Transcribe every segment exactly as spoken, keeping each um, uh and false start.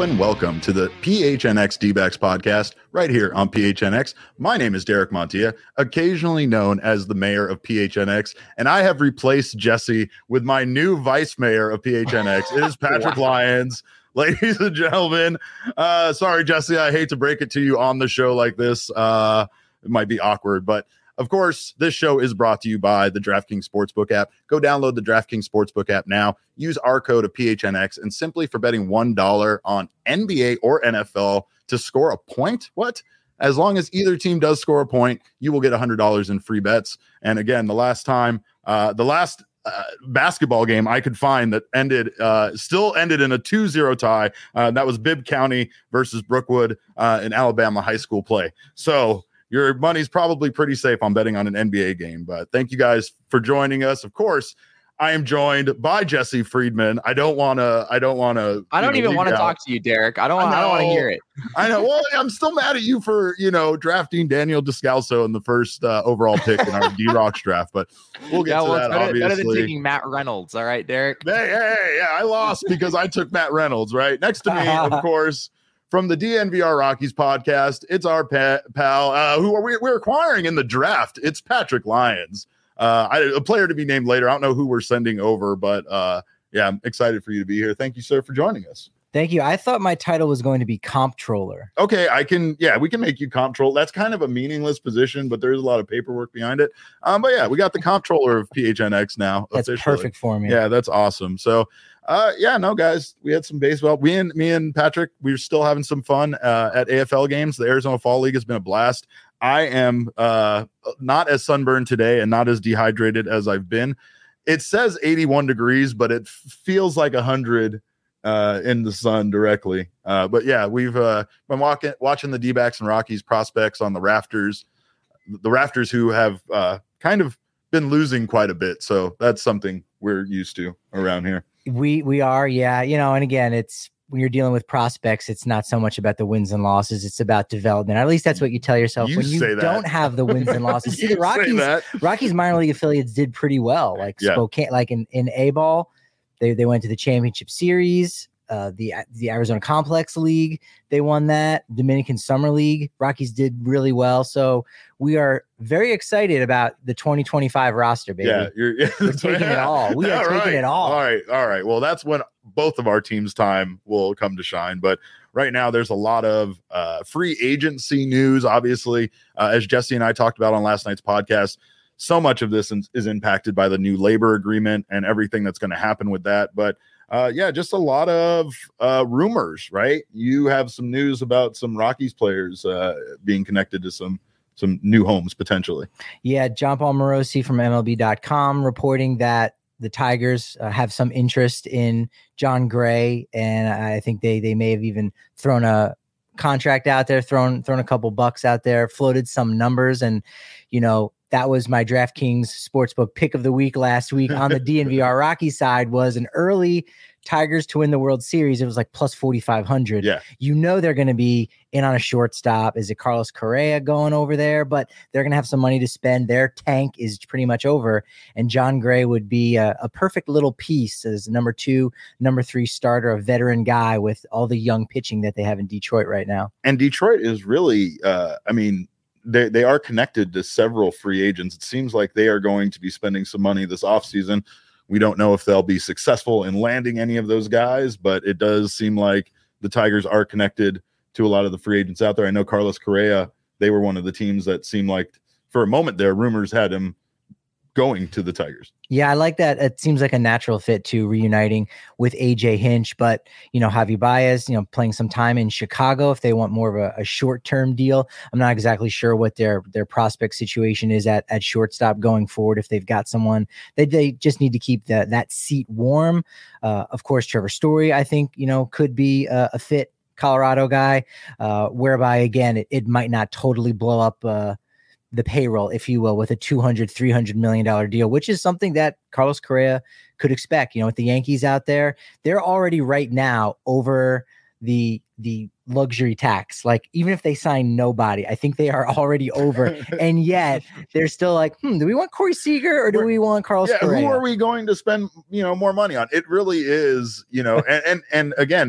and welcome to the P H N X D-backs podcast right here on P H N X. My name is Derek Montilla, occasionally known as the mayor of P H N X, and I have replaced Jesse with my new vice mayor of P H N X. It is Patrick wow. Lyons. Ladies and gentlemen, uh, sorry, Jesse, I hate to break it to you on the show like this. Uh, it might be awkward, but of course, this show is brought to you by the DraftKings Sportsbook app. Go download the DraftKings Sportsbook app now. Use our code of P H N X, and simply for betting one dollar on N B A or N F L to score a point, what? As long as either team does score a point, you will get one hundred dollars in free bets. And again, the last time, uh, the last uh, basketball game I could find that ended, uh, still ended in a two zero tie. Uh, that was Bibb County versus Brookwood uh, in Alabama high school play. So, your money's probably pretty safe on betting on an N B A game, but thank you guys for joining us. Of course, I am joined by Jesse Friedman. I don't want to, I don't want to, I don't know, even want to talk to you, Derek. I don't want, I, I don't want to hear it. I know. Well, I'm still mad at you for, you know, drafting Daniel Descalso in the first uh, overall pick in our D-Rocks draft, but we'll get yeah, to well, that, better, obviously. Better than taking Matt Reynolds. All right, Derek. Hey, hey, hey, yeah, I lost because I took Matt Reynolds, right? Next to me, of course, from the D N V R Rockies podcast, it's our pa- pal uh, who are we, we're acquiring in the draft. It's Patrick Lyons, uh, I, a player to be named later. I don't know who we're sending over, but uh, yeah, I'm excited for you to be here. Thank you, sir, for joining us. Thank you. I thought my title was going to be comptroller. Okay, I can, yeah, we can make you comptroller. That's kind of a meaningless position, but there's a lot of paperwork behind it. Um, but yeah, we got the comptroller of P H N X now. That's officially. Perfect for me. Yeah, that's awesome. So, uh, yeah, no, guys, we had some baseball. We and me and Patrick, we were still having some fun uh, at A F L games. The Arizona Fall League has been a blast. I am uh, not as sunburned today and not as dehydrated as I've been. It says eighty-one degrees, but it f- feels like one hundred uh, in the sun directly. Uh, but yeah, we've uh, been walking, watching the D-backs and Rockies prospects on the rafters, the rafters who have uh, kind of been losing quite a bit. So that's something we're used to around here. We we are, yeah. You know, and again, it's when you're dealing with prospects, it's not so much about the wins and losses. It's about development. At least that's what you tell yourself you when you don't have the wins and losses. See, the Rockies, Rockies minor league affiliates did pretty well. Like yeah. Spokane, like in, in A-ball, they they went to the championship series. Uh, the the Arizona Complex League, they won that. Dominican Summer League, Rockies did really well. So we are very excited about the twenty twenty-five roster, baby. Yeah, you're, yeah, we're taking it all. We are taking right. it all. All right, all right. Well, that's when both of our teams' time will come to shine. But right now, there's a lot of uh, free agency news. Obviously, uh, as Jesse and I talked about on last night's podcast, so much of this is, is impacted by the new labor agreement and everything that's going to happen with that. But Uh, yeah, just a lot of uh, rumors, right? You have some news about some Rockies players uh, being connected to some some new homes potentially. Yeah, John Paul Morosi from M L B dot com reporting that the Tigers uh, have some interest in John Gray, and I think they they may have even thrown a contract out there, thrown thrown a couple bucks out there, floated some numbers, and you know. That was my DraftKings Sportsbook pick of the week last week on the D N V R Rocky side was an early Tigers to win the World Series. It was like plus forty-five hundred. Yeah. You know they're going to be in on a shortstop. Is it Carlos Correa going over there? But they're going to have some money to spend. Their tank is pretty much over. And John Gray would be a, a perfect little piece as number two, number three starter, a veteran guy with all the young pitching that they have in Detroit right now. And Detroit is really, uh, I mean, They they are connected to several free agents. It seems like they are going to be spending some money this offseason. We don't know if they'll be successful in landing any of those guys, but it does seem like the Tigers are connected to a lot of the free agents out there. I know Carlos Correa, they were one of the teams that seemed like for a moment there, rumors had him going to the Tigers. Yeah, I like that. It seems like a natural fit to reuniting with A J Hinch, but you know, Javi Baez, you know, playing some time in Chicago if they want more of a, a short-term deal. I'm not exactly sure what their their prospect situation is at at shortstop going forward. If they've got someone, they they just need to keep the, that seat warm. Uh, of course, Trevor Story, I think, you know, could be a, a fit Colorado guy, uh, whereby again, it, it might not totally blow up uh, the payroll, if you will, with a two hundred, three hundred million dollars deal, which is something that Carlos Correa could expect. You know, with the Yankees out there, they're already right now over the the luxury tax. Like, even if they sign nobody, I think they are already over. And yet they're still like, hmm, do we want Corey Seager or do We're, we want Carlos yeah, Correa? Who are we going to spend, you know, more money on? It really is, you know, and, and, and again,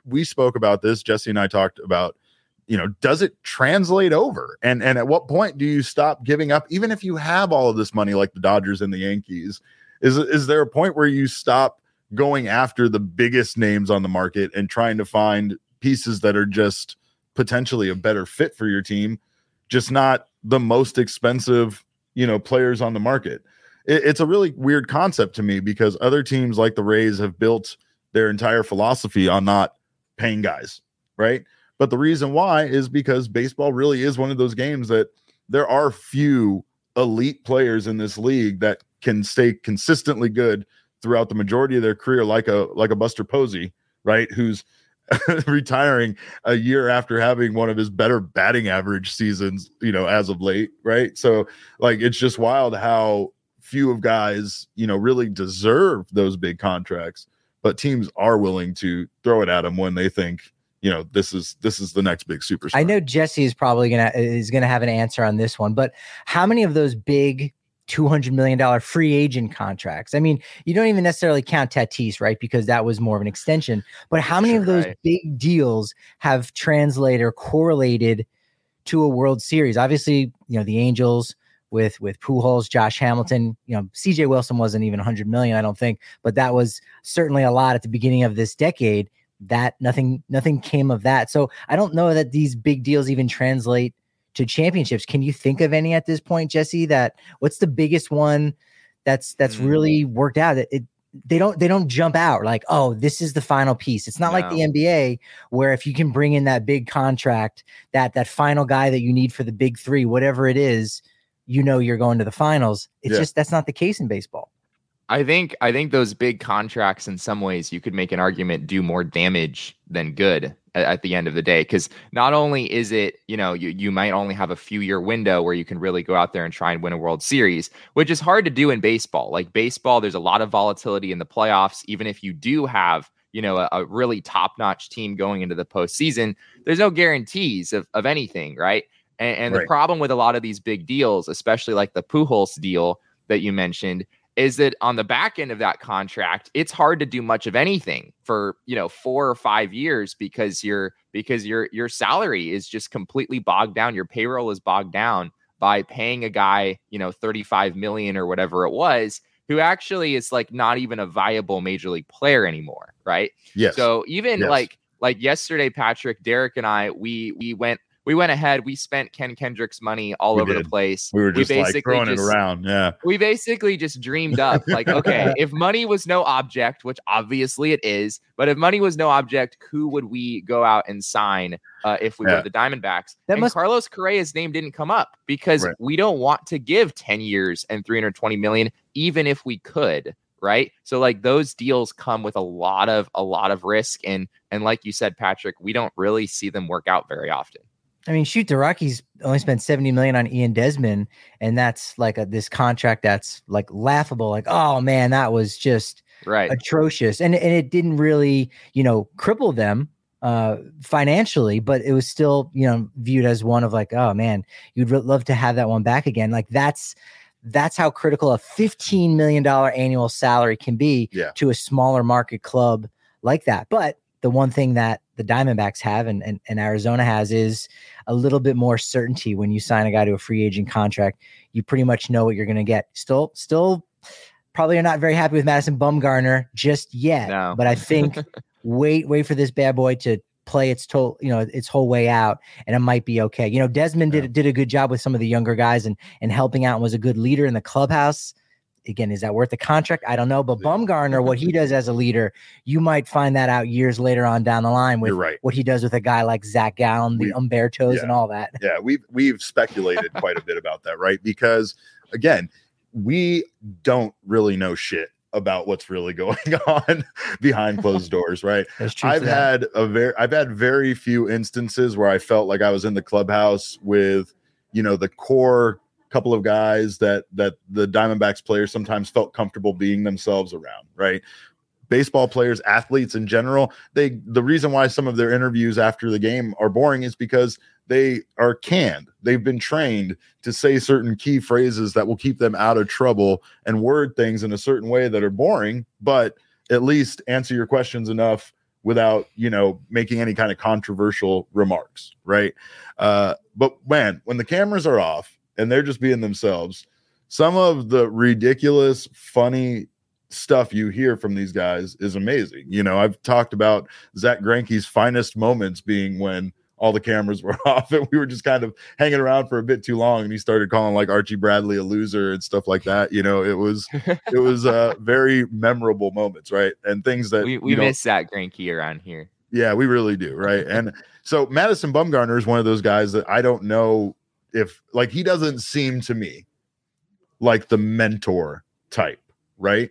we spoke about this. Jesse and I talked about, you know, does it translate over? And and at what point do you stop giving up, even if you have all of this money like the Dodgers and the Yankees? Is is there a point where you stop going after the biggest names on the market and trying to find pieces that are just potentially a better fit for your team, just not the most expensive, you know, players on the market? It, it's a really weird concept to me, because other teams like the Rays have built their entire philosophy on not paying guys, right? But the reason why is because baseball really is one of those games that there are few elite players in this league that can stay consistently good throughout the majority of their career, like a like a Buster Posey, right? Who's retiring a year after having one of his better batting average seasons, you know, as of late, right? So, like, it's just wild how few of guys, you know, really deserve those big contracts, but teams are willing to throw it at them when they think, you know, this is this is the next big superstar. I know Jesse is probably gonna is gonna have an answer on this one, but how many of those big two hundred million dollars free agent contracts? I mean, you don't even necessarily count Tatis, right? Because that was more of an extension. But how many of those Right. big deals have translated or correlated to a World Series? Obviously, you know, the Angels with with Pujols, Josh Hamilton, you know, C J Wilson wasn't even one hundred million dollars, I don't think, but that was certainly a lot at the beginning of this decade. That nothing nothing came of that. So I don't know that these big deals even translate to championships. Can you think of any at this point, Jesse? That what's the biggest one that's that's Mm. really worked out? It, it they don't they don't jump out like, oh, this is the final piece. It's not like the No. N B A where if you can bring in that big contract, that that final guy that you need for the big three, whatever it is, you know you're going to the finals. It's Yeah. just that's not the case in baseball. I think I think those big contracts, in some ways, you could make an argument, do more damage than good at, at the end of the day. Because not only is it, you know, you you might only have a few year window where you can really go out there and try and win a World Series, which is hard to do in baseball. Like baseball, there's a lot of volatility in the playoffs. Even if you do have, you know, a, a really top notch team going into the postseason, there's no guarantees of of anything, right? And, and Right. the problem with a lot of these big deals, especially like the Pujols deal that you mentioned, is that on the back end of that contract, it's hard to do much of anything for, you know, four or five years because your because your your salary is just completely bogged down. Your payroll is bogged down by paying a guy, you know, thirty-five million or whatever it was, who actually is like not even a viable major league player anymore, right? Yes. So even Yes. like like yesterday, Patrick, Derek, and I, we we went we went ahead. We spent Ken Kendrick's money all We over did. the place. we were just like basically throwing just- it around. Yeah. we basically just dreamed up like, okay, if money was no object, which obviously it is, but if money was no object, who would we go out and sign uh, if we Yeah. were the Diamondbacks? That and must- Carlos Correa's name didn't come up because Right. we don't want to give ten years and three hundred twenty million, even if we could. Right. So like those deals come with a lot of a lot of risk. And and like you said, Patrick, we don't really see them work out very often. I mean, shoot, the Rockies only spent seventy million on Ian Desmond, and that's like a, this contract that's like laughable. Like, oh man, that was just Right. atrocious, and and it didn't really, you know, cripple them uh, financially, but it was still, you know, viewed as one of like, oh man, you'd re- love to have that one back again. Like that's that's how critical a fifteen million dollars annual salary can be Yeah. to a smaller market club like that. But the one thing that the Diamondbacks have and, and, and Arizona has is a little bit more certainty when you sign a guy to a free agent contract. You pretty much know what you're going to get. Still, still probably are not very happy with Madison Bumgarner just yet, No. but I think wait, wait for this bad boy to play its to, you know, its whole way out, and it might be okay. You know, Desmond did Yeah. did a good job with some of the younger guys and and helping out and was a good leader in the clubhouse. Again, is that worth the contract? I don't know. But Bumgarner, what he does as a leader, you might find that out years later on down the line with You're right. what he does with a guy like Zach Gallen, the We- Umbertos, yeah. and all that. Yeah, we've we've speculated quite a bit about that, right? Because again, we don't really know shit about what's really going on behind closed doors, right? There's truth I've to that. had a very I've had very few instances where I felt like I was in the clubhouse with, you know, the core couple of guys that that the Diamondbacks players sometimes felt comfortable being themselves around, right? Baseball players, athletes in general, they the reason why some of their interviews after the game are boring is because they are canned. They've been trained to say certain key phrases that will keep them out of trouble and word things in a certain way that are boring, but at least answer your questions enough without, you know, making any kind of controversial remarks, right? Uh, but man, when the cameras are off and they're just being themselves, some of the ridiculous, funny stuff you hear from these guys is amazing. You know, I've talked about Zach Greinke's finest moments being when all the cameras were off and we were just kind of hanging around for a bit too long, and he started calling like Archie Bradley a loser and stuff like that. You know, it was it was uh very memorable moments, right? And things that we, we miss Zach Greinke around here. Yeah, we really do, right? And so Madison Bumgarner is one of those guys that I don't know if, like, he doesn't seem to me like the mentor type, right?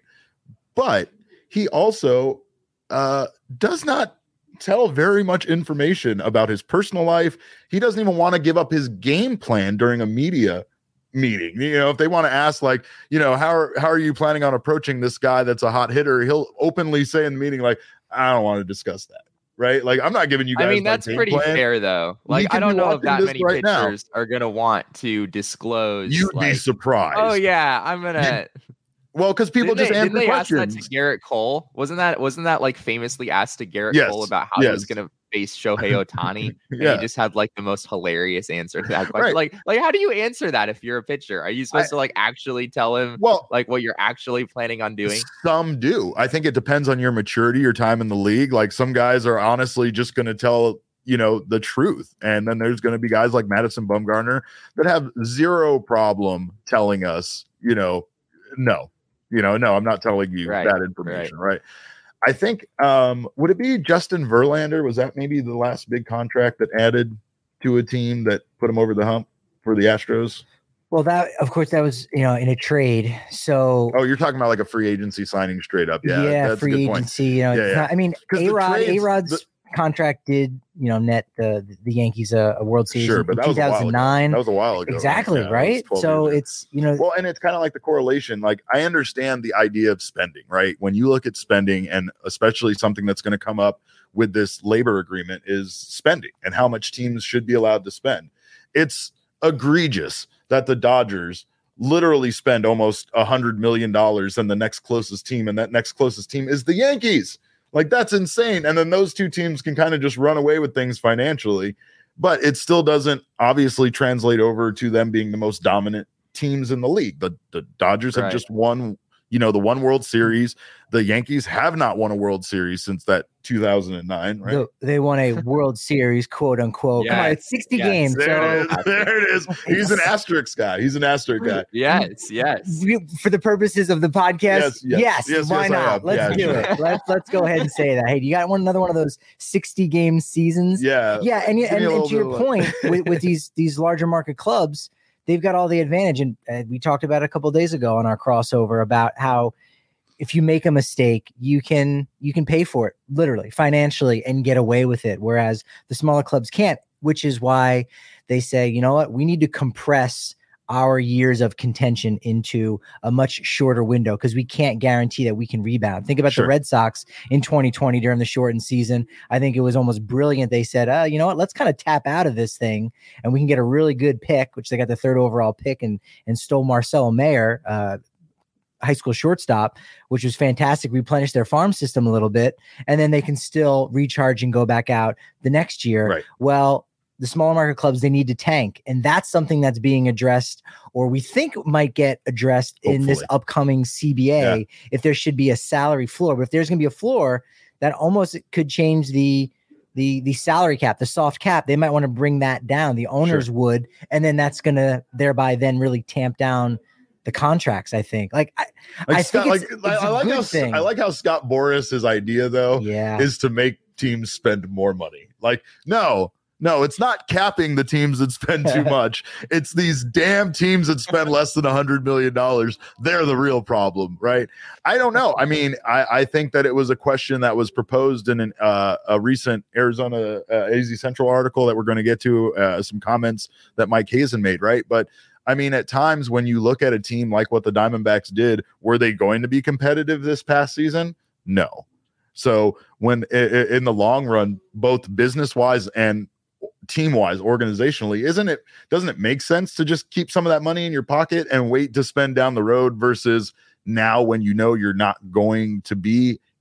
But he also uh does not tell very much information about his personal life. He doesn't even want to give up his game plan during a media meeting. You know, if they want to ask, like, you know, how are, how are you planning on approaching this guy that's a hot hitter, he'll openly say in the meeting, like, I don't want to discuss that. Right? Like, I'm not giving you guys. I mean, that's pretty plan. fair, though. Like, I don't know if that many right pitchers now. are gonna want to disclose. You'd like, be surprised. Oh yeah, I'm gonna. Well, because people didn't just they, answer didn't they questions. ask that to Garrett Cole? Wasn't that wasn't that like famously asked to Garrett yes. Cole about how yes. he was going to face Shohei Ohtani? And yeah. he just had like the most hilarious answer to that question. Right. Like, like how do you answer that if you're a pitcher? Are you supposed I, to like actually tell him well, like what you're actually planning on doing? Some do. I think it depends on your maturity, your time in the league. Like, some guys are honestly just going to tell, you know, the truth. And then there's going to be guys like Madison Bumgarner that have zero problem telling us, you know, no. You know, no, I'm not telling you right, that information, right. right? I think, um, would it be Justin Verlander? Was that maybe the last big contract that added to a team that put him over the hump for the Astros? Well, that, of course, that was, you know, in a trade. So, oh, you're talking about like a free agency signing straight up. Yeah, yeah, that's free a good point. agency. You know, yeah, yeah. Not, I mean, A-Rod, A-Rod's the, contract did, you know, net the the Yankees a, a World Series sure, in but that two thousand nine. Was a while ago. That was a while ago. Exactly, yeah, right? So it's, you know, well, and it's kind of like the correlation. Like, I understand the idea of spending, right? When you look at spending, and especially something that's going to come up with this labor agreement, is spending and how much teams should be allowed to spend. It's egregious that the Dodgers literally spend almost a hundred million dollars on the next closest team, and that next closest team is the Yankees. Like, that's insane. And then those two teams can kind of just run away with things financially, but it still doesn't obviously translate over to them being the most dominant teams in the league. The, the Dodgers right. have just won, you know, the one World Series. The Yankees have not won a World Series since that two thousand nine, right? The, they won a World Series, quote unquote. Yes. Come on, it's sixty yes. games. There, so. it is. there it is. He's an asterisk guy. He's an asterisk guy. Yes, yes. For the purposes of the podcast, yes, yes, yes, yes why yes, not? Let's yeah, do sure. it. Let's let's go ahead and say that. Hey, you got one another one of those sixty game seasons? Yeah, yeah, and and, and, and to your point, with, with these these larger market clubs, they've got all the advantage. And uh, we talked about it a couple of days ago on our crossover about how if you make a mistake, you can you can pay for it literally financially and get away with it, whereas the smaller clubs can't, which is why they say, you know what, we need to compress our years of contention into a much shorter window because we can't guarantee that we can rebound. Think about sure. the Red Sox in twenty twenty during the shortened season. I think it was almost brilliant. They said, uh, you know what, let's kind of tap out of this thing and we can get a really good pick, which they got the third overall pick and, and stole Marcelo Mayer, uh, high school shortstop, which was fantastic, replenish their farm system a little bit, and then they can still recharge and go back out the next year. Right. Well, the smaller market clubs, they need to tank. And that's something that's being addressed, or we think might get addressed Hopefully. in this upcoming C B A, yeah. if there should be a salary floor. But if there's going to be a floor, that almost could change the the the salary cap, the soft cap. They might want to bring that down. The owners sure. would, and then that's going to thereby then really tamp down the contracts. I think like I, like I Scott, think it's, like, it's I, I like how thing. I like how Scott Boris's idea though yeah. is to make teams spend more money. Like, no, no, it's not capping the teams that spend too much. It's these damn teams that spend less than a hundred million dollars. They're the real problem, right? I don't know. I mean, I, I think that it was a question that was proposed in an, uh, a recent Arizona uh, A Z Central article that we're going to get to, uh, some comments that Mike Hazen made, right? But I mean, at times when you look at a team like what the Diamondbacks did, were they going to be competitive this past season? No. So when in the long run, both business wise and team wise, organizationally, isn't it, doesn't it make sense to just keep some of that money in your pocket and wait to spend down the road versus now when you know you're not going to be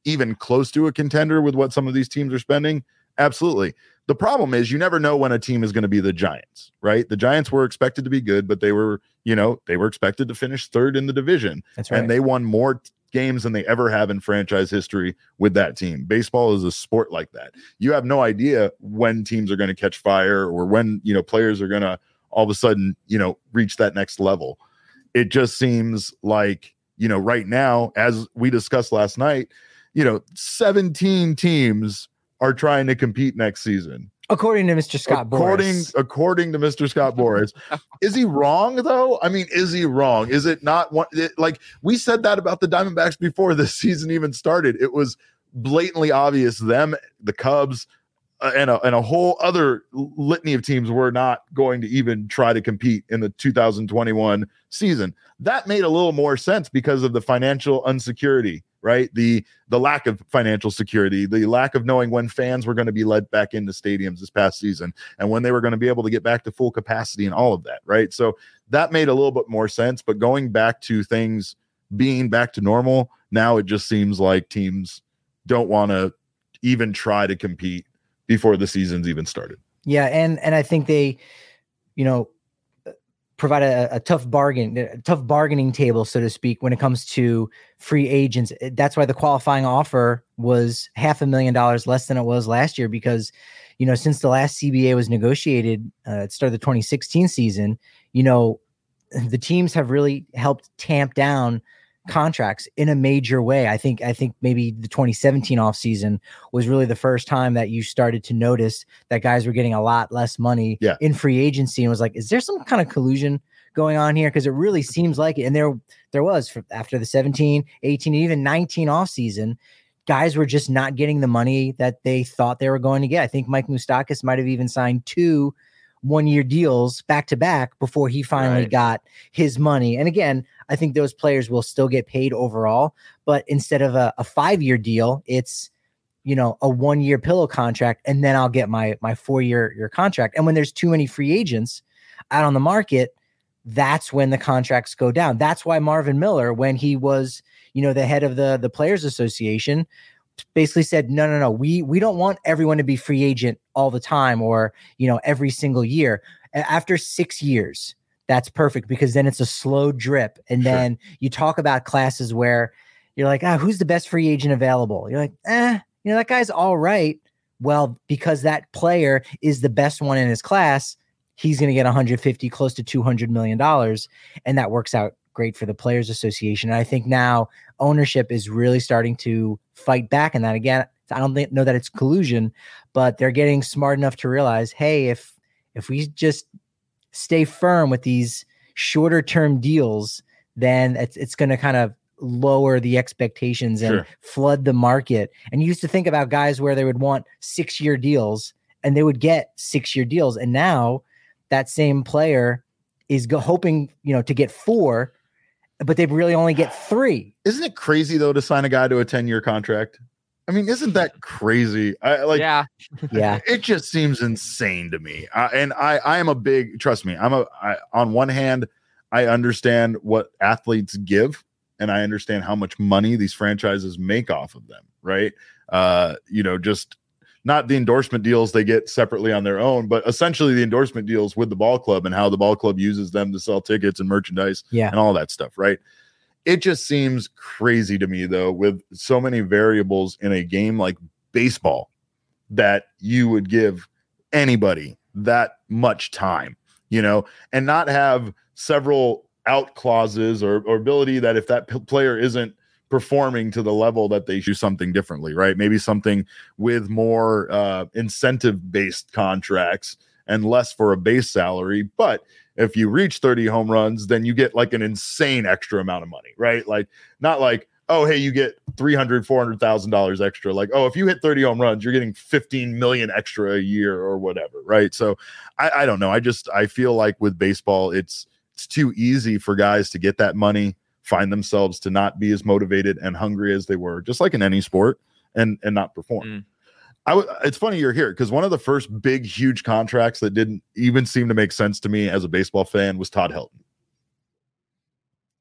even close to a contender with what some of these teams are spending? Absolutely. The problem is you never know when a team is going to be the Giants, right? The Giants were expected to be good, but they were, you know, they were expected to finish third in the division. That's right. And they won more t- games than they ever have in franchise history with that team. Baseball is a sport like that. You have no idea when teams are going to catch fire or when, you know, players are going to all of a sudden, you know, reach that next level. It just seems like, you know, right now, as we discussed last night, you know, seventeen teams are trying to compete next season. According to Mister Scott according, Boras. According to Mister Scott Boras. Is he wrong, though? I mean, is he wrong? Is it not one? It, like, we said that about the Diamondbacks before this season even started. It was blatantly obvious them, the Cubs, uh, and, a, and a whole other litany of teams were not going to even try to compete in the two thousand twenty-one season. That made a little more sense because of the financial insecurity, right? The the lack of financial security, the lack of knowing when fans were going to be led back into stadiums this past season and when they were going to be able to get back to full capacity and all of that, right? So that made a little bit more sense. But going back to things being back to normal, now it just seems like teams don't want to even try to compete before the season's even started. Yeah, and and I think they, you know, provide a, a tough bargain, a tough bargaining table, so to speak, when it comes to free agents. That's why the qualifying offer was half a million dollars less than it was last year, because, you know, since the last C B A was negotiated uh, at the start of the twenty sixteen season, you know, the teams have really helped tamp down contracts in a major way. I think I think maybe the twenty seventeen offseason was really the first time that you started to notice that guys were getting a lot less money yeah. in free agency, and was like, is there some kind of collusion going on here? Because it really seems like it. And there there was for, after the seventeen, eighteen, even nineteen offseason, guys were just not getting the money that they thought they were going to get. I think Mike Moustakas might have even signed two one-year deals back to back before he finally right. got his money. And again, I think those players will still get paid overall, but instead of a, a five-year deal, it's, you know, a one-year pillow contract, and then I'll get my my four-year year contract. And when there's too many free agents out on the market, that's when the contracts go down. That's why Marvin Miller, when he was, you know, the head of the the Players Association, basically said, no, no, no, we we don't want everyone to be free agent all the time, or, you know, every single year. After six years, that's perfect, because then it's a slow drip. And Sure. then you talk about classes where you're like, ah, who's the best free agent available? You're like, eh, you know, that guy's all right. Well, because that player is the best one in his class, he's going to get one hundred fifty, close to two hundred million dollars. And that works out great for the Players Association. And I think now ownership is really starting to fight back. And that, again, I don't think, know that it's collusion, but they're getting smart enough to realize, hey, if if we just stay firm with these shorter term deals, then it's it's going to kind of lower the expectations and Sure. flood the market. And you used to think about guys where they would want six year deals and they would get six year deals. And now that same player is go- hoping, you know, to get four, but they really only get three. Isn't it crazy, though, to sign a guy to a ten-year contract? I mean, isn't that crazy? I like, yeah. Yeah. It just seems insane to me. Uh, and I, I am a big, trust me, I'm a, I, on one hand, I understand what athletes give, and I understand how much money these franchises make off of them, right? Uh, you know, just not the endorsement deals they get separately on their own, but essentially the endorsement deals with the ball club and how the ball club uses them to sell tickets and merchandise Yeah. and all that stuff, right? It just seems crazy to me, though, with so many variables in a game like baseball, that you would give anybody that much time, you know, and not have several out clauses or, or ability that if that p- player isn't performing to the level that they do something differently, right? Maybe something with more uh, incentive based contracts and less for a base salary. But if you reach thirty home runs, then you get like an insane extra amount of money, right? Like, not like, oh, hey, you get three hundred thousand dollars, four hundred thousand dollars extra. Like, oh, if you hit thirty home runs, you're getting fifteen million extra a year or whatever, right? So I, I don't know. I just, I feel like with baseball, it's, it's too easy for guys to get that money, find themselves to not be as motivated and hungry as they were, just like in any sport, and, and not perform. Mm. I w- it's funny you're here, because one of the first big, huge contracts that didn't even seem to make sense to me as a baseball fan was Todd Helton.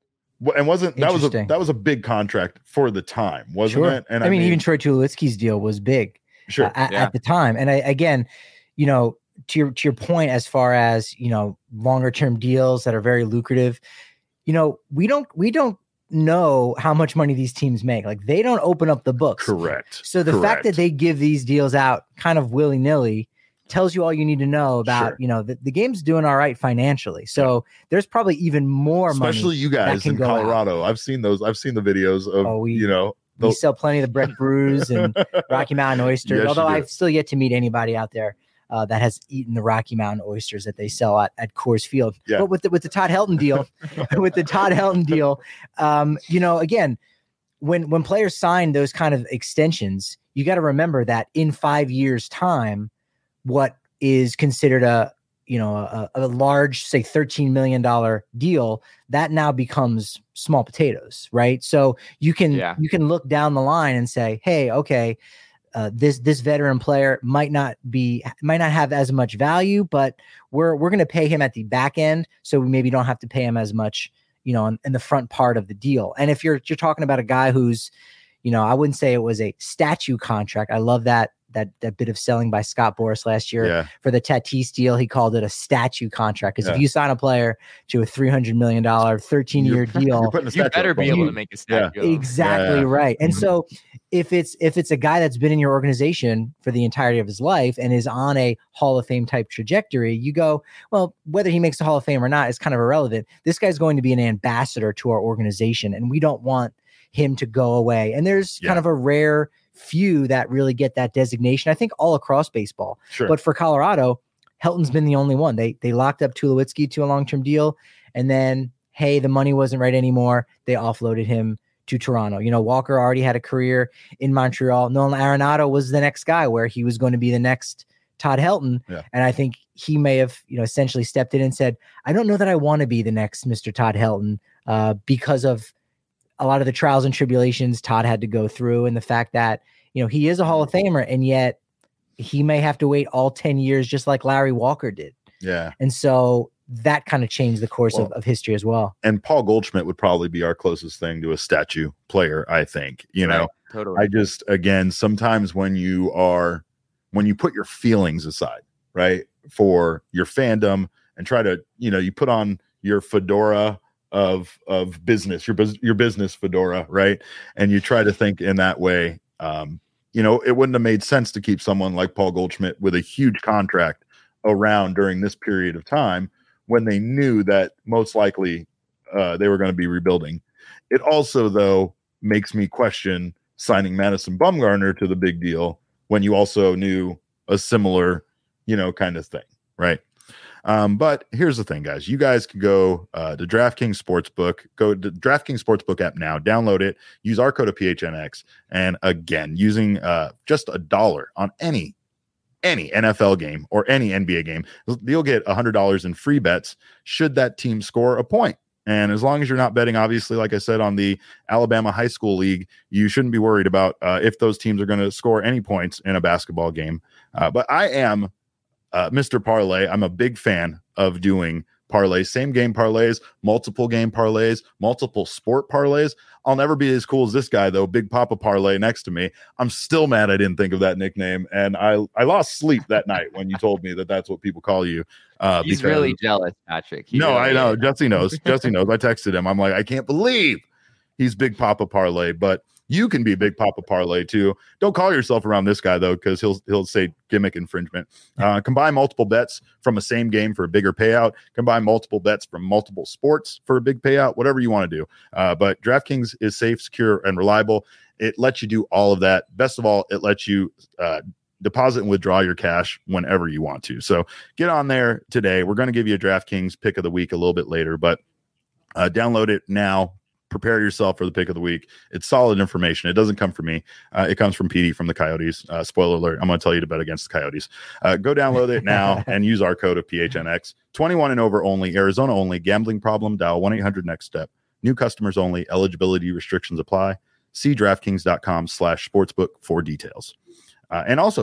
Well, and wasn't that was a that was a big contract for the time, wasn't sure. it? And I, I mean, mean, even Troy Tulowitzki's deal was big, sure, uh, at, yeah. at the time. And I, again, you know, to your to your point, as far as you know, longer term deals that are very lucrative, you know, we don't we don't know how much money these teams make. Like they don't open up the books. correct. So the correct. fact that they give these deals out kind of willy nilly tells you all you need to know about, Sure. you know, the, the game's doing all right financially. So yeah. there's probably even more money. Especially you guys in Colorado. Out. I've seen those. I've seen the videos of, oh, we, you know, we sell plenty of the Breck Brews and Rocky Mountain oysters, yes, although I've still yet to meet anybody out there uh, that has eaten the Rocky Mountain oysters that they sell at, at Coors Field. Yeah. But with the, with the Todd Helton deal, with the Todd Helton deal, um, you know, again, when, when players sign those kind of extensions, you got to remember that in five years time, what is considered a, you know, a, a large, say thirteen million dollars deal, that now becomes small potatoes, right? So you can, yeah. you can look down the line and say, hey, okay, uh, this, this veteran player might not be, might not have as much value, but we're, we're going to pay him at the back end. So we maybe don't have to pay him as much, you know, in, in the front part of the deal. And if you're, you're talking about a guy who's, you know, I wouldn't say it was a statue contract. I love that, that, that bit of selling by Scott Boras last year yeah. for the Tatis deal. He called it a statue contract. Because yeah. if you sign a player to a three hundred million dollars, thirteen year deal, you better be able to make a statue. Yeah. Exactly. Yeah. Right. And mm-hmm. so if it's, if it's a guy that's been in your organization for the entirety of his life and is on a Hall of Fame type trajectory, you go, well, whether he makes the Hall of Fame or not is kind of irrelevant. This guy's going to be an ambassador to our organization, and we don't want him to go away. And there's yeah. kind of a rare few that really get that designation, I think, all across baseball. Sure. But for Colorado, Helton's been the only one. They they locked up Tulowitzki to a long-term deal, and then, hey, the money wasn't right anymore. They offloaded him to Toronto. You know, Walker already had a career in Montreal. Nolan Arenado was the next guy where he was going to be the next Todd Helton. Yeah. And I think he may have, you know, essentially stepped in and said, I don't know that I want to be the next Mister Todd Helton uh, because of a lot of the trials and tribulations Todd had to go through, and the fact that, you know, he is a Hall of Famer, and yet he may have to wait all ten years, just like Larry Walker did. Yeah. And so that kind of changed the course well, of, of history as well. And Paul Goldschmidt would probably be our closest thing to a statue player, I think. You right. know, totally. I just, again, sometimes when you are, when you put your feelings aside, right, for your fandom and try to, you know, you put on your fedora of of business, your bus- your business fedora, right? And you try to think in that way. Um, you know, it wouldn't have made sense to keep someone like Paul Goldschmidt with a huge contract around during this period of time when they knew that most likely uh, they were going to be rebuilding. It also, though, makes me question signing Madison Bumgarner to the big deal when you also knew a similar, you know, kind of thing, right? Um, but here's the thing, guys. You guys can go uh, to DraftKings Sportsbook, go to DraftKings Sportsbook app now, download it, use our code of P H N X, and again, using uh, just a dollar on any any N F L game or any N B A game, you'll get one hundred dollars in free bets should that team score a point. And as long as you're not betting, obviously, like I said, on the Alabama High School League, you shouldn't be worried about uh, if those teams are going to score any points in a basketball game. Uh, but I am Uh, Mister Parlay. I'm a big fan of doing parlays, same game parlays, multiple game parlays, multiple sport parlays. I'll never be as cool as this guy, though. Big Papa Parlay next to me. I'm still mad I didn't think of that nickname, and I I lost sleep that night when you told me that that's what people call you. Uh, He's because, really jealous, Patrick. He no, really I know. is. Jesse knows. Jesse knows. I texted him. I'm like, I can't believe he's Big Papa Parlay, but you can be Big Papa Parlay too. Don't call yourself around this guy though, because he'll he'll say gimmick infringement. Uh, combine multiple bets from a same game for a bigger payout. Combine multiple bets from multiple sports for a big payout. Whatever you want to do. Uh, but DraftKings is safe, secure, and reliable. It lets you do all of that. Best of all, it lets you uh, deposit and withdraw your cash whenever you want to. So get on there today. We're going to give you a DraftKings pick of the week a little bit later, but uh, download it now. Prepare yourself for the pick of the week. It's solid information. It doesn't come from me. Uh, it comes from Petey from the Coyotes. Uh, spoiler alert. I'm going to tell you to bet against the Coyotes. Uh, go download it now and use our code of P H N X. twenty-one and over only. Arizona only. Gambling problem? Dial one eight hundred next step. New customers only. Eligibility restrictions apply. See DraftKings.com slash sportsbook for details. Uh, and also,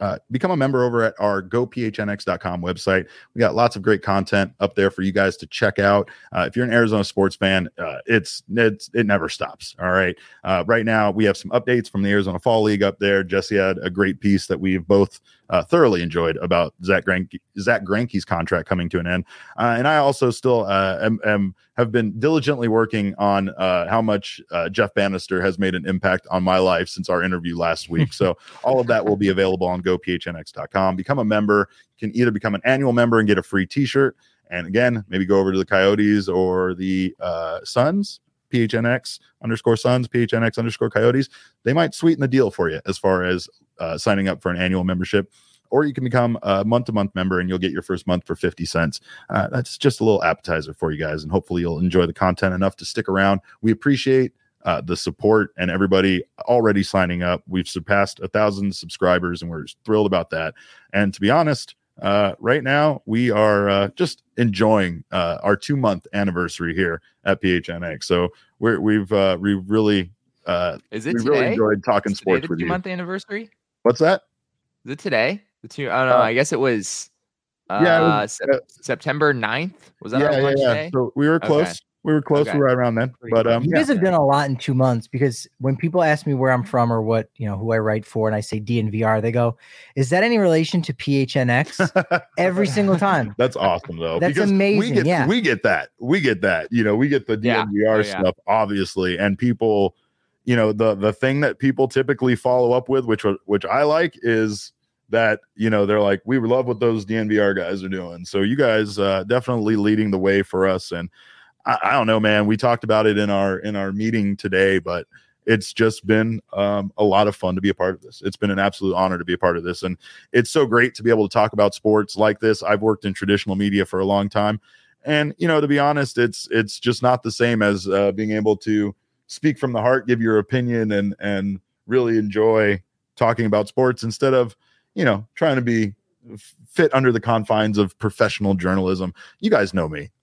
uh, become a member over at our go p h n x dot com website. We got lots of great content up there for you guys to check out. Uh, if you're an Arizona sports fan, uh, it's, it's it never stops. All right. Uh, right now, we have some updates from the Arizona Fall League up there. Jesse had a great piece that we've both uh, thoroughly enjoyed about Zach Greinke, Zach Greinke's contract coming to an end. Uh, and I also still uh, am, am have been diligently working on uh, how much uh, Jeff Bannister has made an impact on my life since our interview last week. So all of that will be available on go p h n x dot com. Become a member. You can either become an annual member and get a free t-shirt. And again, maybe go over to the Coyotes or the uh, Suns, P H N X underscore Suns, P H N X underscore Coyotes. They might sweeten the deal for you as far as uh, signing up for an annual membership. Or you can become a month-to-month member and you'll get your first month for fifty cents. Uh, that's just a little appetizer for you guys. And hopefully you'll enjoy the content enough to stick around. We appreciate uh, the support and everybody already signing up. We've surpassed a thousand subscribers and we're thrilled about that. And to be honest, uh, right now we are uh, just enjoying uh, our two-month anniversary here at P H N X. So we're, we've uh, we've really uh, is it we today? really enjoyed talking Is sports today the with you. two-month anniversary? What's that? Is it today? The two, I don't know. Uh, I guess it was, uh, yeah, it was, sep- uh, September ninth. Was that yeah, our yeah, lunch yeah. day? So we were close. Okay. We were close. Okay. We were right around then. But um, You yeah. guys have done a lot in two months because when people ask me where I'm from or what, you know, who I write for, and I say D N V R, they go, is that any relation to P H N X? Every single time. That's awesome though. That's because amazing, We get, yeah. we get that. We get that. You know, we get the Yeah. D N V R Oh, yeah. stuff, obviously, and people, you know, the the thing that people typically follow up with, which which I like, is that, you know, they're like, we love what those D N V R guys are doing. So you guys uh, definitely leading the way for us. And I, I don't know, man, we talked about it in our in our meeting today, but it's just been um, a lot of fun to be a part of this. It's been an absolute honor to be a part of this. And it's so great to be able to talk about sports like this. I've worked in traditional media for a long time. And, you know, to be honest, it's it's just not the same as uh, being able to speak from the heart, give your opinion, and and really enjoy talking about sports instead of, you know, trying to be fit under the confines of professional journalism. You guys know me.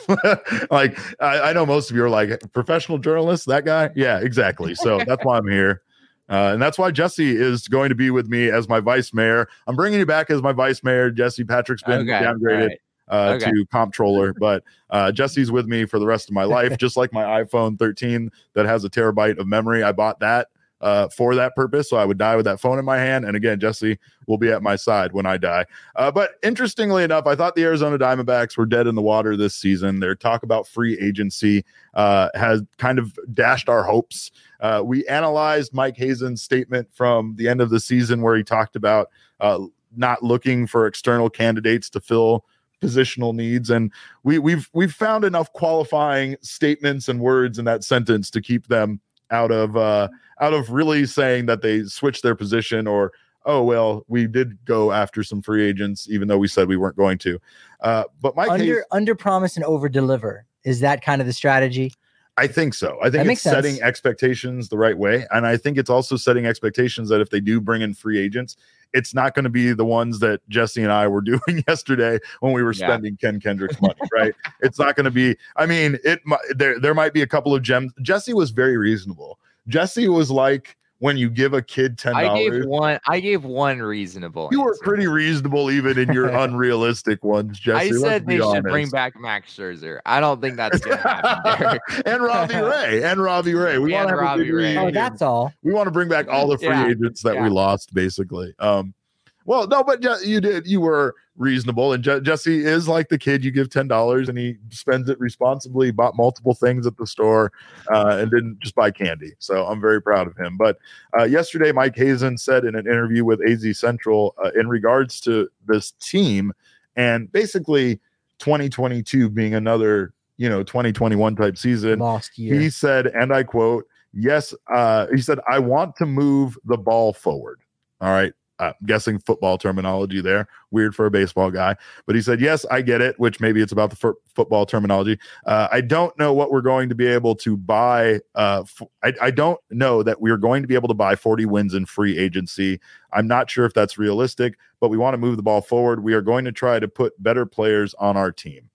like, I, I know most of you are like, professional journalist, that guy? Yeah, exactly. So that's why I'm here. Uh, and that's why Jesse is going to be with me as my vice mayor. I'm bringing you back as my vice mayor. Jesse Patrick's been Okay. downgraded Right. uh, Okay. to comptroller, but uh, Jesse's with me for the rest of my life, just like my iPhone thirteen that has a terabyte of memory. I bought that uh, for that purpose. So I would die with that phone in my hand. And again, Jesse will be at my side when I die. Uh, but interestingly enough, I thought the Arizona Diamondbacks were dead in the water this season. Their talk about free agency uh, has kind of dashed our hopes. Uh, we analyzed Mike Hazen's statement from the end of the season where he talked about uh, not looking for external candidates to fill positional needs. And we, we've, we've found enough qualifying statements and words in that sentence to keep them out of, uh, out of really saying that they switched their position or, oh, well, we did go after some free agents, even though we said we weren't going to. Uh, but Mike Under Hazen, under promise and over deliver. Is that kind of the strategy? I think so. I think That it's makes sense. setting expectations the right way. And I think it's also setting expectations that if they do bring in free agents, it's not going to be the ones that Jesse and I were doing yesterday when we were Yeah. spending Ken Kendrick's money, right? It's not going to be, I mean, it mi- there, there might be a couple of gems. Jesse was very reasonable. Jesse was like, when you give a kid ten dollars. I gave one. I gave one reasonable. You were answer. pretty reasonable even in your unrealistic ones, Jesse. I let's said be they should honest. bring back Max Scherzer. I don't think that's gonna happen, Derek. and Robbie Ray. And Robbie Ray. We And want to have a Robbie big Ray. Oh, reunion. that's all. We want to bring back all the free Yeah, agents that we yeah. lost, basically. Um, well, no, but Je- you did. You were reasonable, and Je- Jesse is like the kid. You give ten dollars, and he spends it responsibly. He bought multiple things at the store, uh, and didn't just buy candy. So I'm very proud of him. But uh, yesterday, Mike Hazen said in an interview with A Z Central uh, in regards to this team, and basically twenty twenty-two being another, you know, twenty twenty-one type season. Lost year. He said, and I quote, yes, uh, he said, I want to move the ball forward. All right. Uh, guessing football terminology there. Weird for a baseball guy. But he said, yes, I get it, which maybe it's about the f- football terminology. Uh, I don't know what we're going to be able to buy. Uh, f- I, I don't know that we're going to be able to buy forty wins in free agency. I'm not sure if that's realistic, but we want to move the ball forward. We are going to try to put better players on our team.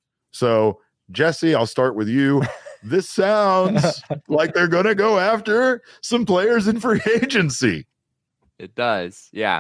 So, Jesse, I'll start with you. This sounds like they're going to go after some players in free agency. It does. Yeah.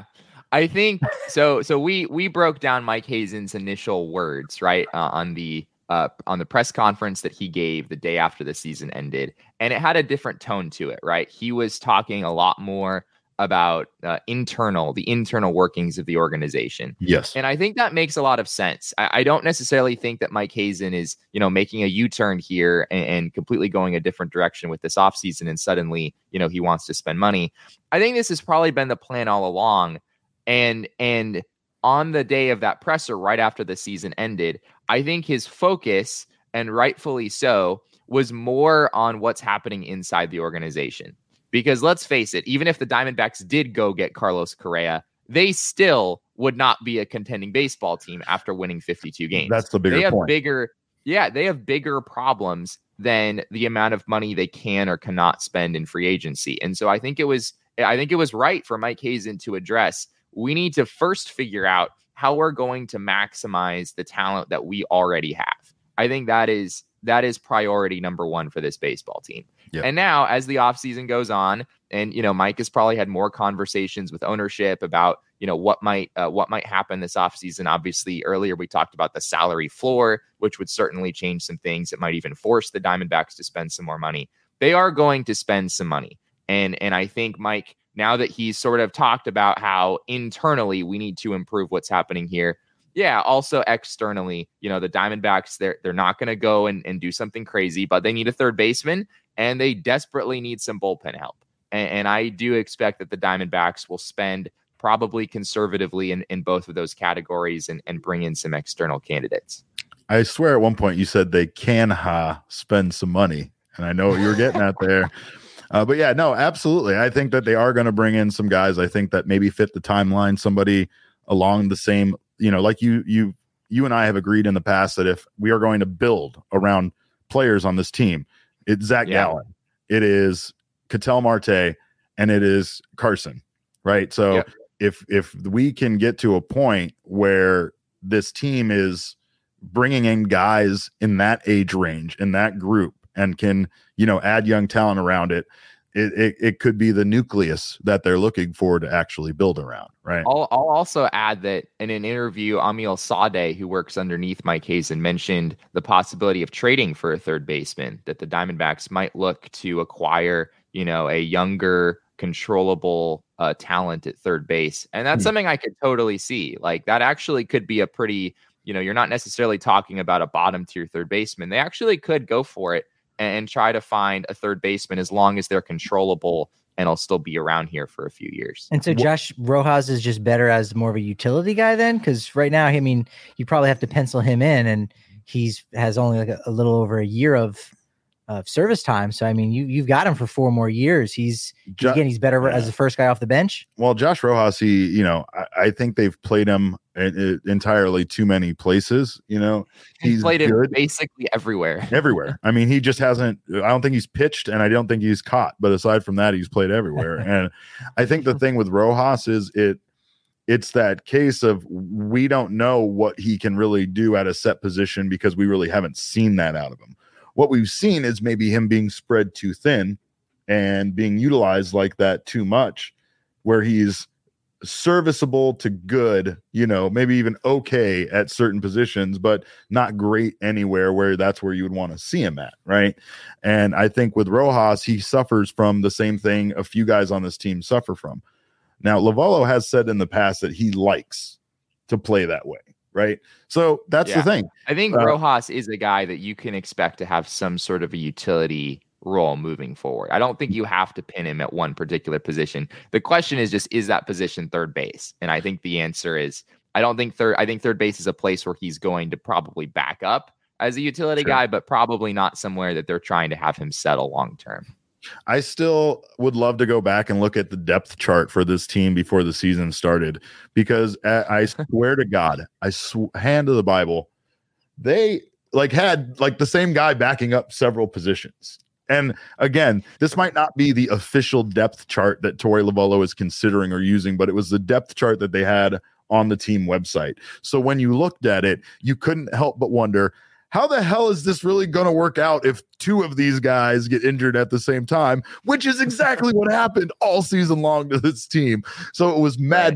I think so. So we we broke down Mike Hazen's initial words, right, uh, on the uh, on the press conference that he gave the day after the season ended, and it had a different tone to it, right? He was talking a lot more about uh, internal, the internal workings of the organization. Yes. And I think that makes a lot of sense. I, I don't necessarily think that Mike Hazen is, you know, making a U-turn here and, and completely going a different direction with this offseason and suddenly, you know, he wants to spend money. I think this has probably been the plan all along. And, and on the day of that presser, right after the season ended, I think his focus, and rightfully so, was more on what's happening inside the organization. Because let's face it, even if the Diamondbacks did go get Carlos Correa, they still would not be a contending baseball team after winning fifty-two games. That's the bigger they have point. Bigger, yeah, they have bigger problems than the amount of money they can or cannot spend in free agency. And so I think it was, I think it was right for Mike Hazen to address, we need to first figure out how we're going to maximize the talent that we already have. I think that is that is priority number one for this baseball team. Yep. And now, as the offseason goes on, and you know, Mike has probably had more conversations with ownership about, you know, what might uh, what might happen this offseason. Obviously, earlier we talked about the salary floor, which would certainly change some things. It might even force the Diamondbacks to spend some more money. They are going to spend some money, and and I think Mike, now that he's sort of talked about how internally we need to improve what's happening here. Yeah, also externally, you know, the Diamondbacks, they're they're not going to go and, and do something crazy, but they need a third baseman. And they desperately need some bullpen help. And, and I do expect that the Diamondbacks will spend probably conservatively in, in both of those categories and, and bring in some external candidates. I swear at one point you said they can ha spend some money. And I know what you were getting at there. Uh, but yeah, no, absolutely. I think that they are going to bring in some guys. I think that maybe fit the timeline, somebody along the same, you know, like you, you, you and I have agreed in the past that if we are going to build around players on this team, it's Zach yeah. Gallen, it is Ketel Marte, and it is Carson, right? So yep. if if we can get to a point where this team is bringing in guys in that age range, in that group, and can, you know, add young talent around it, it it, it could be the nucleus that they're looking for to actually build around, right? I'll, I'll also add that in an interview, Amil Sade, who works underneath Mike Hazen, mentioned the possibility of trading for a third baseman, that the Diamondbacks might look to acquire, you know, a younger, controllable uh, talent at third base. And that's hmm. something I could totally see. Like that actually could be a pretty, you know, you're not necessarily talking about a bottom tier third baseman. They actually could go for it and try to find a third baseman as long as they're controllable and I'll still be around here for a few years. And so Josh Rojas is just better as more of a utility guy then? Because right now, I mean, you probably have to pencil him in, and he's has only like a, a little over a year of of service time. So, I mean, you, you've got him for four more years. He's, jo- again, he's better yeah. as the first guy off the bench. Well, Josh Rojas, he, you know, I, I think they've played him in, in entirely too many places. You know, he's, he's played good. Him basically everywhere. Everywhere. I mean, he just hasn't, I don't think he's pitched, and I don't think he's caught. But aside from that, he's played everywhere. And I think the thing with Rojas is it, it's that case of we don't know what he can really do at a set position because we really haven't seen that out of him. What we've seen is maybe him being spread too thin and being utilized like that too much, where he's serviceable to good, you know, maybe even okay at certain positions, but not great anywhere where that's where you would want to see him at, right? And I think with Rojas, he suffers from the same thing a few guys on this team suffer from. Now, Lovallo has said in the past that he likes to play that way. Right. So that's yeah. the thing. I think uh, Rojas is a guy that you can expect to have some sort of a utility role moving forward. I don't think you have to pin him at one particular position. The question is just, is that position third base? And I think the answer is, I don't think third, I think third base is a place where he's going to probably back up as a utility sure. guy, but probably not somewhere that they're trying to have him settle long term. I still would love to go back and look at the depth chart for this team before the season started, because I swear to God, I sw- hand to the Bible, they like had like the same guy backing up several positions. And again, this might not be the official depth chart that Torey Lovallo is considering or using, but it was the depth chart that they had on the team website. So when you looked at it, you couldn't help but wonder, how the hell is this really going to work out if two of these guys get injured at the same time, which is exactly what happened all season long to this team. So it was maddening.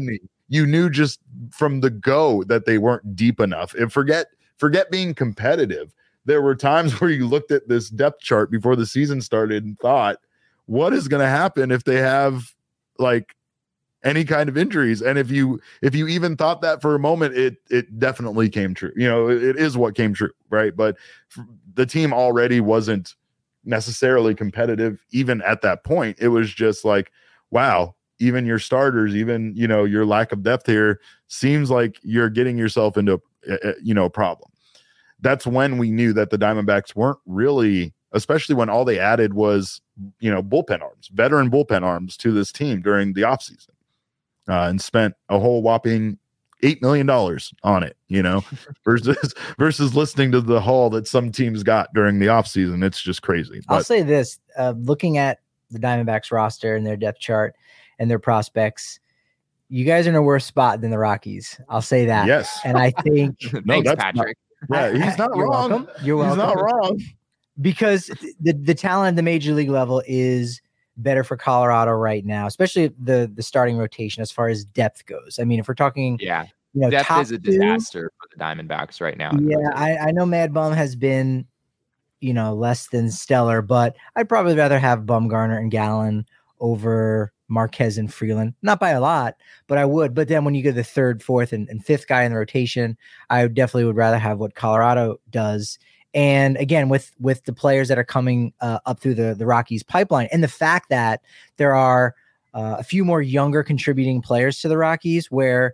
you knew just from the go that they weren't deep enough. And forget forget being competitive. There were times where you looked at this depth chart before the season started and thought, what is going to happen if they have like any kind of injuries? And if you if you even thought that for a moment, it it definitely came true. You know, it, it is what came true, right? But the team already wasn't necessarily competitive even at that point. It was just like, wow, even your starters, even, you know, your lack of depth here seems like you're getting yourself into a, you know, a problem. That's when we knew that the Diamondbacks weren't really, especially when all they added was, you know, bullpen arms, veteran bullpen arms to this team during the offseason, uh, and spent a whole whopping eight million dollars on it, you know, versus versus listening to the haul that some teams got during the offseason. It's just crazy. I'll But, say this, uh, looking at the Diamondbacks roster and their depth chart and their prospects, you guys are in a worse spot than the Rockies. I'll say that. yes. And I think No, Thanks, that's Patrick. Yeah, he's not You're wrong. welcome. You're He's welcome. not wrong. Because the, the talent at the major league level is better for Colorado right now, especially the the starting rotation as far as depth goes. I mean, if we're talking, Yeah. you know, Depth top is a two, disaster for the Diamondbacks right now. in the Yeah, rotation. I, I know Mad Bum has been, you know, less than stellar, but I'd probably rather have Bumgarner and Gallen over Marquez and Freeland. Not by a lot, but I would. But then when you get the third, fourth, and, and fifth guy in the rotation, I definitely would rather have what Colorado does. And again, with with the players that are coming uh, up through the, the Rockies pipeline, and the fact that there are uh, a few more younger contributing players to the Rockies, where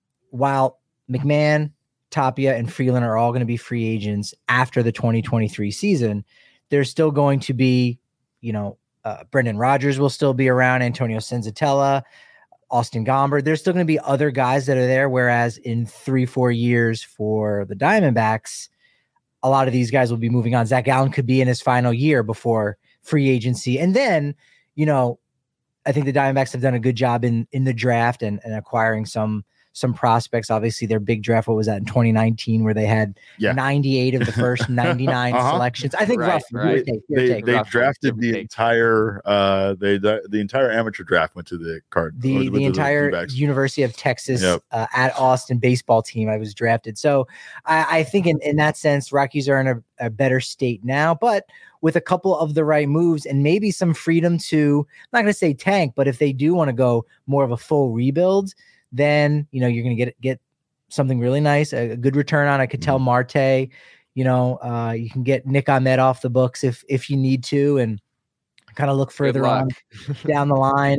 while McMahon, Tapia, and Freeland are all going to be free agents after the twenty twenty-three season, there's still going to be, you know, uh, Brendan Rodgers will still be around, Antonio Senzatella, Austin Gomber. There's still going to be other guys that are there, whereas in three, four years for the Diamondbacks, a lot of these guys will be moving on. Zach Gallen could be in his final year before free agency. And then, you know, I think the Diamondbacks have done a good job in in the draft and, and acquiring some some prospects. Obviously, their big draft, what was that, in twenty nineteen, where they had Yeah. ninety-eight of the first ninety-nine Uh-huh. selections. I think Right, roughly. right. Give or take, give or They take. they Roughly, drafted give or the take. entire uh they the, the entire amateur draft went to the card. the went to the entire D-backs. University of Texas Yep. uh, at Austin baseball team I was drafted. So I, I think in, in that sense, Rockies are in a, a better state now, but with a couple of the right moves and maybe some freedom to, I'm not going to say tank, but if they do want to go more of a full rebuild, then, you know, you're going to get get something really nice, a, a good return on. I could tell Marte, you know, uh, you can get Nick Ahmed off the books if if you need to, and kind of look further on down the line.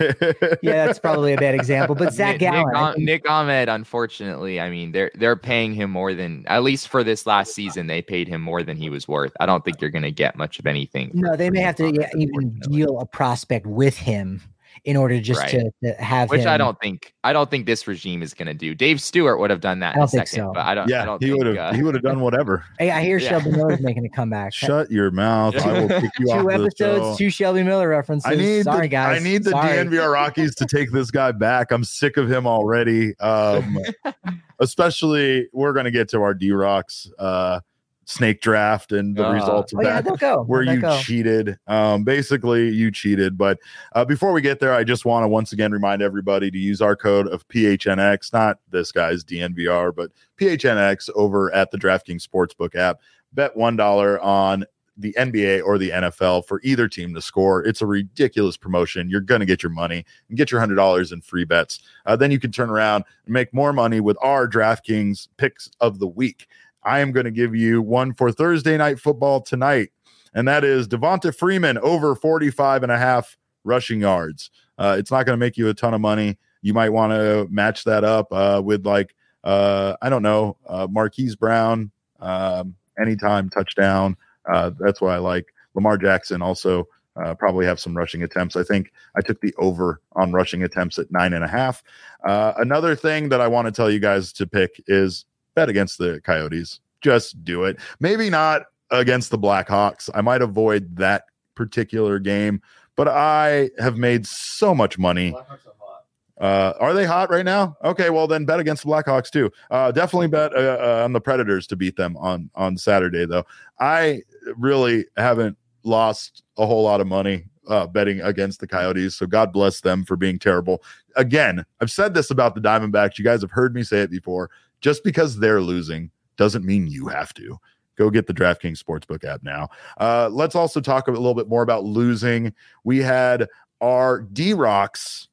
Yeah, that's probably a bad example, but Zach Nick, Gallen, Nick, I Ah- think- Nick Ahmed, unfortunately, I mean, they're they're paying him more than, at least for this last season, they paid him more than he was worth. I don't think you're going to get much of anything. no, for- they for may Nick have to Ahmed, yeah, even unfortunately. deal a prospect with him in order just Right. to, to have Which him. I don't think I don't think this regime is going to do. Dave Stewart would have done that I in a don't think second, so. but I don't. I yeah, don't he think, would have uh, he would have done whatever. Hey, I hear Yeah. Shelby Miller's making a comeback. Shut your mouth. I will kick you off Two the episodes, show. two Shelby Miller references. I need Sorry, the, guys. I need the Sorry. D N V R Rockies to take this guy back. I'm sick of him already. Um, especially we're gonna get to our D Rocks uh, snake draft and the Uh, results of Oh, yeah, that. don't go. Where Don't you go. cheated. Um, basically, you cheated. But uh, before we get there, I just want to once again remind everybody to use our code of P H N X, not this guy's D N V R, but P H N X over at the DraftKings Sportsbook app. Bet one dollar on the N B A or the N F L for either team to score. It's a ridiculous promotion. You're going to get your money and get your one hundred dollars in free bets. Uh, then you can turn around and make more money with our DraftKings picks of the week. I am going to give you one for Thursday night football tonight, and that is Devonta Freeman over forty-five and a half rushing yards. Uh, it's not going to make you a ton of money. You might want to match that up uh, with like, uh, I don't know, uh, Marquise Brown, um, anytime touchdown. Uh, that's what I like. Lamar Jackson also uh, probably have some rushing attempts. I think I took the over on rushing attempts at nine and a half. Uh, another thing that I want to tell you guys to pick is bet against the Coyotes. Just do it. Maybe not against the Blackhawks. I might avoid that particular game, but I have made so much money. Uh, are they hot right now? Okay, well then bet against the Blackhawks too. Uh, definitely bet uh, uh, on the Predators to beat them on on Saturday though. I really haven't lost a whole lot of money uh, betting against the Coyotes. So God bless them for being terrible. Again, I've said this about the Diamondbacks. You guys have heard me say it before. Just because they're losing doesn't mean you have to. Go get the DraftKings Sportsbook app now. Uh, let's also talk a little bit more about losing. We had our D-Rocks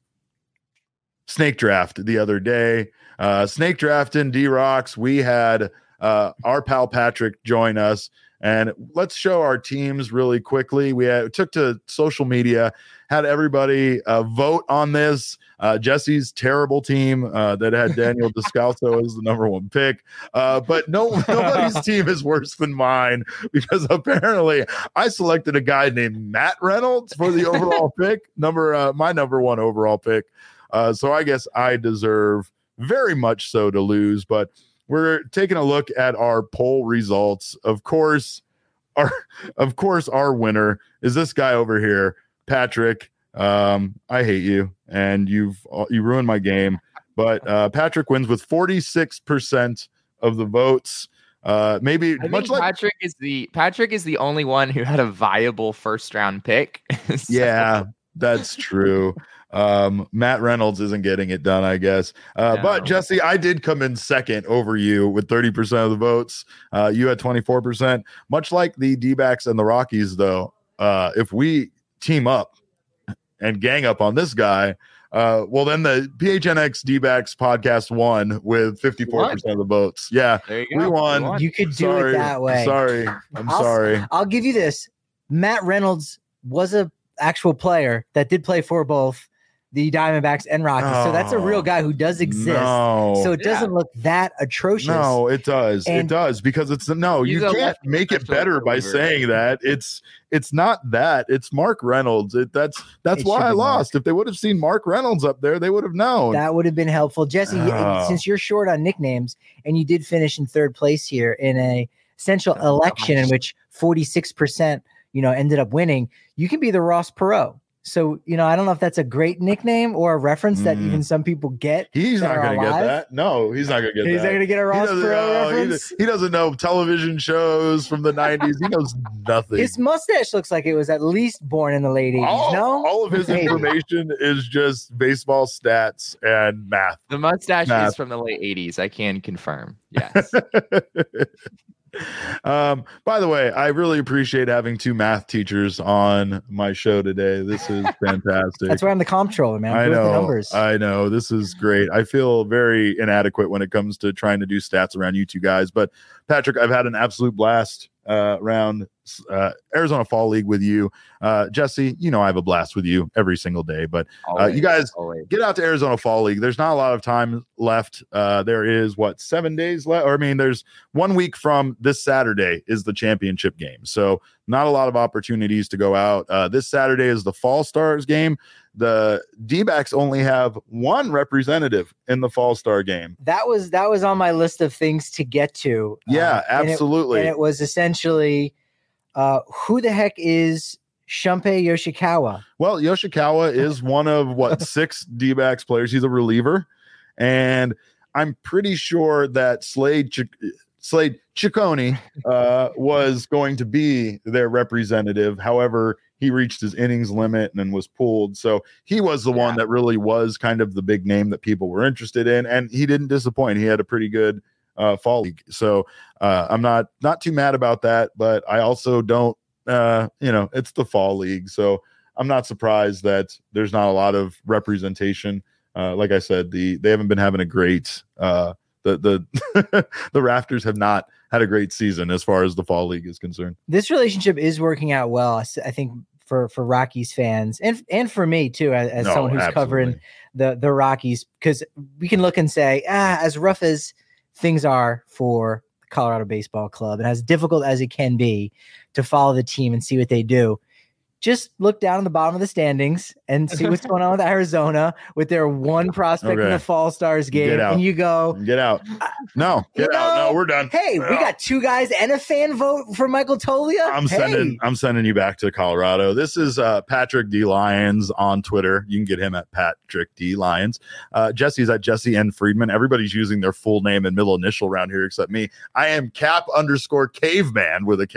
snake draft the other day. Uh, snake draft in D-Rocks. We had uh, our pal Patrick join us. And let's show our teams really quickly. We had, took to social media, had everybody uh, vote on this. Uh, Jesse's terrible team uh, that had Daniel Descalso as the number one pick. Uh, but no, nobody's team is worse than mine, because apparently I selected a guy named Matt Reynolds for the overall pick, number uh, my number one overall pick. Uh, so I guess I deserve very much so to lose, but we're taking a look at our poll results. Of course, our of course our winner is this guy over here, Patrick. Um, I hate you, and you've you ruined my game. But uh, Patrick wins with forty-six percent of the votes. Uh, maybe I much think like Patrick is the Patrick is the only one who had a viable first round pick. So- yeah, that's true. Um, Matt Reynolds isn't getting it done, I guess. Uh, No. But Jesse, I did come in second over you with thirty percent of the votes. Uh, you had twenty-four percent. Much like the D-backs and the Rockies, though, uh, if we team up and gang up on this guy, uh, well, then the P H N X D-backs podcast won with fifty-four percent of the votes. Yeah, there you go. we won. You won. You could do sorry, it that way. Sorry, I'm I'll- sorry. I'll give you this. Matt Reynolds was a actual player that did play for both the Diamondbacks and Rockies. So that's a real guy who does exist. No. So it doesn't look that atrocious. No, it does. And- it does because it's no. He's You a can't left make it special better by reliever. saying that. It's it's not that. It's Mark Reynolds. It, that's that's It why should I be Mark. lost. If they would have seen Mark Reynolds up there, they would have known. That would have been helpful. Jesse, you- Oh. since you're short on nicknames and you did finish in third place here in a essential Oh, election in gosh. which forty-six percent, you know, ended up winning, you can be the Ross Perot. So, you know, I don't know if that's a great nickname or a reference that Mm. even some people get. he's that not are going to get alive. that. No, he's not going to get He's that. not going to get a He Ross doesn't, Perot know, he, reference. he doesn't know television shows from the nineties. He knows nothing. His mustache looks like it was at least born in the late eighties. all, No, all of his Maybe. information is just baseball stats and math. The mustache Math. is from the late eighties. I can confirm. Yes. um, by the way, I really appreciate having two math teachers on my show today. This is fantastic. That's why I'm the comptroller, man. I'm I good with the know. numbers. I know. This is great. I feel very inadequate when it comes to trying to do stats around you two guys. But Patrick, I've had an absolute blast uh, around uh, Arizona Fall League with you. Uh, Jesse, you know I have a blast with you every single day. But Always, you guys- always. get out to Arizona Fall League. There's not a lot of time left. Uh, there is what seven days left, or I mean, there's one week from this Saturday is the championship game. So not a lot of opportunities to go out. Uh, this Saturday is the Fall Stars game. The D-backs only have one representative in the Fall Star game. that was that was on my list of things to get to. Yeah, Uh, and it- absolutely. And it was essentially, uh, who the heck is Shumpei Yoshikawa? Well, Yoshikawa is one of what six D-backs players. He's a reliever, and I'm pretty sure that Slade Ch- Slade Ciccone uh, was going to be their representative. However, he reached his innings limit and then was pulled. So he was the one Yeah. that really was kind of the big name that people were interested in, and he didn't disappoint. He had a pretty good uh, fall league. So uh, I'm not not too mad about that, but I also don't. Uh, you know, it's the fall league, so I'm not surprised that there's not a lot of representation. Uh, like I said, the they haven't been having a great uh, the the the Rafters have not had a great season as far as the fall league is concerned. This relationship is working out well. I s- I think for for Rockies fans and and for me too, as, as No, someone who's covering absolutely. the the Rockies, because we can look and say, ah, as rough as things are for the Colorado Baseball Club and as difficult as it can be to follow the team and see what they do, just look down at the bottom of the standings and see what's going on with Arizona with their one prospect in Okay. the Fall Stars game, Get out. and you go, Get out. No, You get out. know, No, we're done. hey, we got two guys and a fan vote for Michael Tolia. I'm Hey. sending I'm sending you back to Colorado. This is uh, Patrick D Lyons on Twitter. You can get him at Patrick D Lyons. Uh, Jesse's at Jesse N Friedman. Everybody's using their full name and middle initial around here except me. I am Cap underscore Caveman with a K.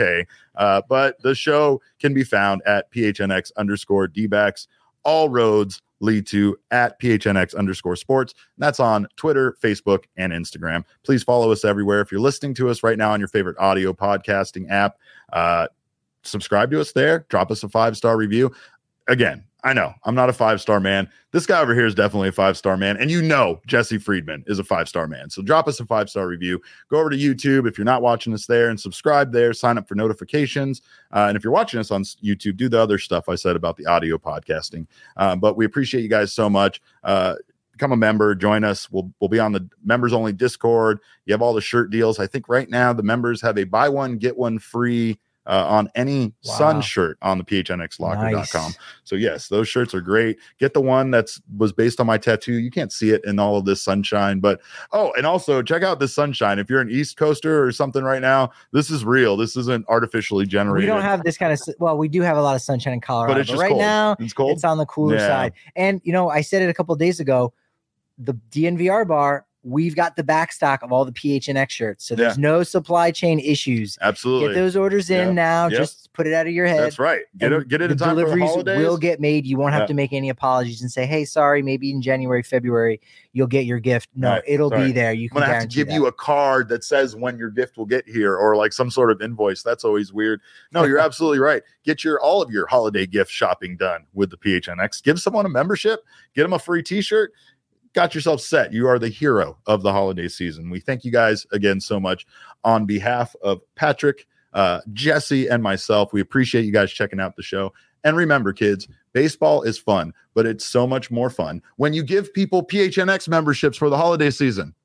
Uh, but the show can be found at PHNX underscore D-backs. All roads lead to at PHNX underscore sports. And that's on Twitter, Facebook, and Instagram. Please follow us everywhere. If you're listening to us right now on your favorite audio podcasting app, uh, subscribe to us there. Drop us a five-star review. Again, I know I'm not a five-star man. This guy over here is definitely a five-star man. And you know Jesse Friedman is a five-star man. So drop us a five-star review. Go over to YouTube if you're not watching us there and subscribe there. Sign up for notifications. Uh, and if you're watching us on YouTube, do the other stuff I said about the audio podcasting. Um, but we appreciate you guys so much. Uh, become a member. Join us. We'll, we'll be on the members-only Discord. You have all the shirt deals. I think right now the members have a buy one, get one free Uh, on any Wow. Sun shirt on the P H N X locker dot com. Nice. So yes, those shirts are great. Get the one that's was based on my tattoo. You can't see it in all of this sunshine, but oh, and also check out this sunshine. If you're an East Coaster or something right now, this is real. This isn't artificially generated. We don't have this kind of, s- well, we do have a lot of sunshine in Colorado, but but, it's just right cold. now It's cold. it's on the cooler Yeah. side. And, you know, I said it a couple of days ago, the D N V R bar, we've got the back stock of all the P H N X shirts. So there's no supply chain issues. Absolutely. Get those orders in Yeah. now. Yep. Just put it out of your head. That's right. Get and it, get it the in time for the deliveries holidays. will get made. You won't have Yeah. to make any apologies and say, hey, sorry, maybe in January, February, you'll get your gift. No, Right. it'll Sorry. be there. You I'm can gonna have to guarantee give that. you a card that says when your gift will get here, or like some sort of invoice. That's always weird. No, you're absolutely right. Get your all of your holiday gift shopping done with the P H N X. Give someone a membership. Get them a free T-shirt. Got yourself set. You are the hero of the holiday season. We thank you guys again so much on behalf of Patrick, uh, Jesse, and myself. We appreciate you guys checking out the show. And remember, kids, baseball is fun, but it's so much more fun when you give people P H N X memberships for the holiday season.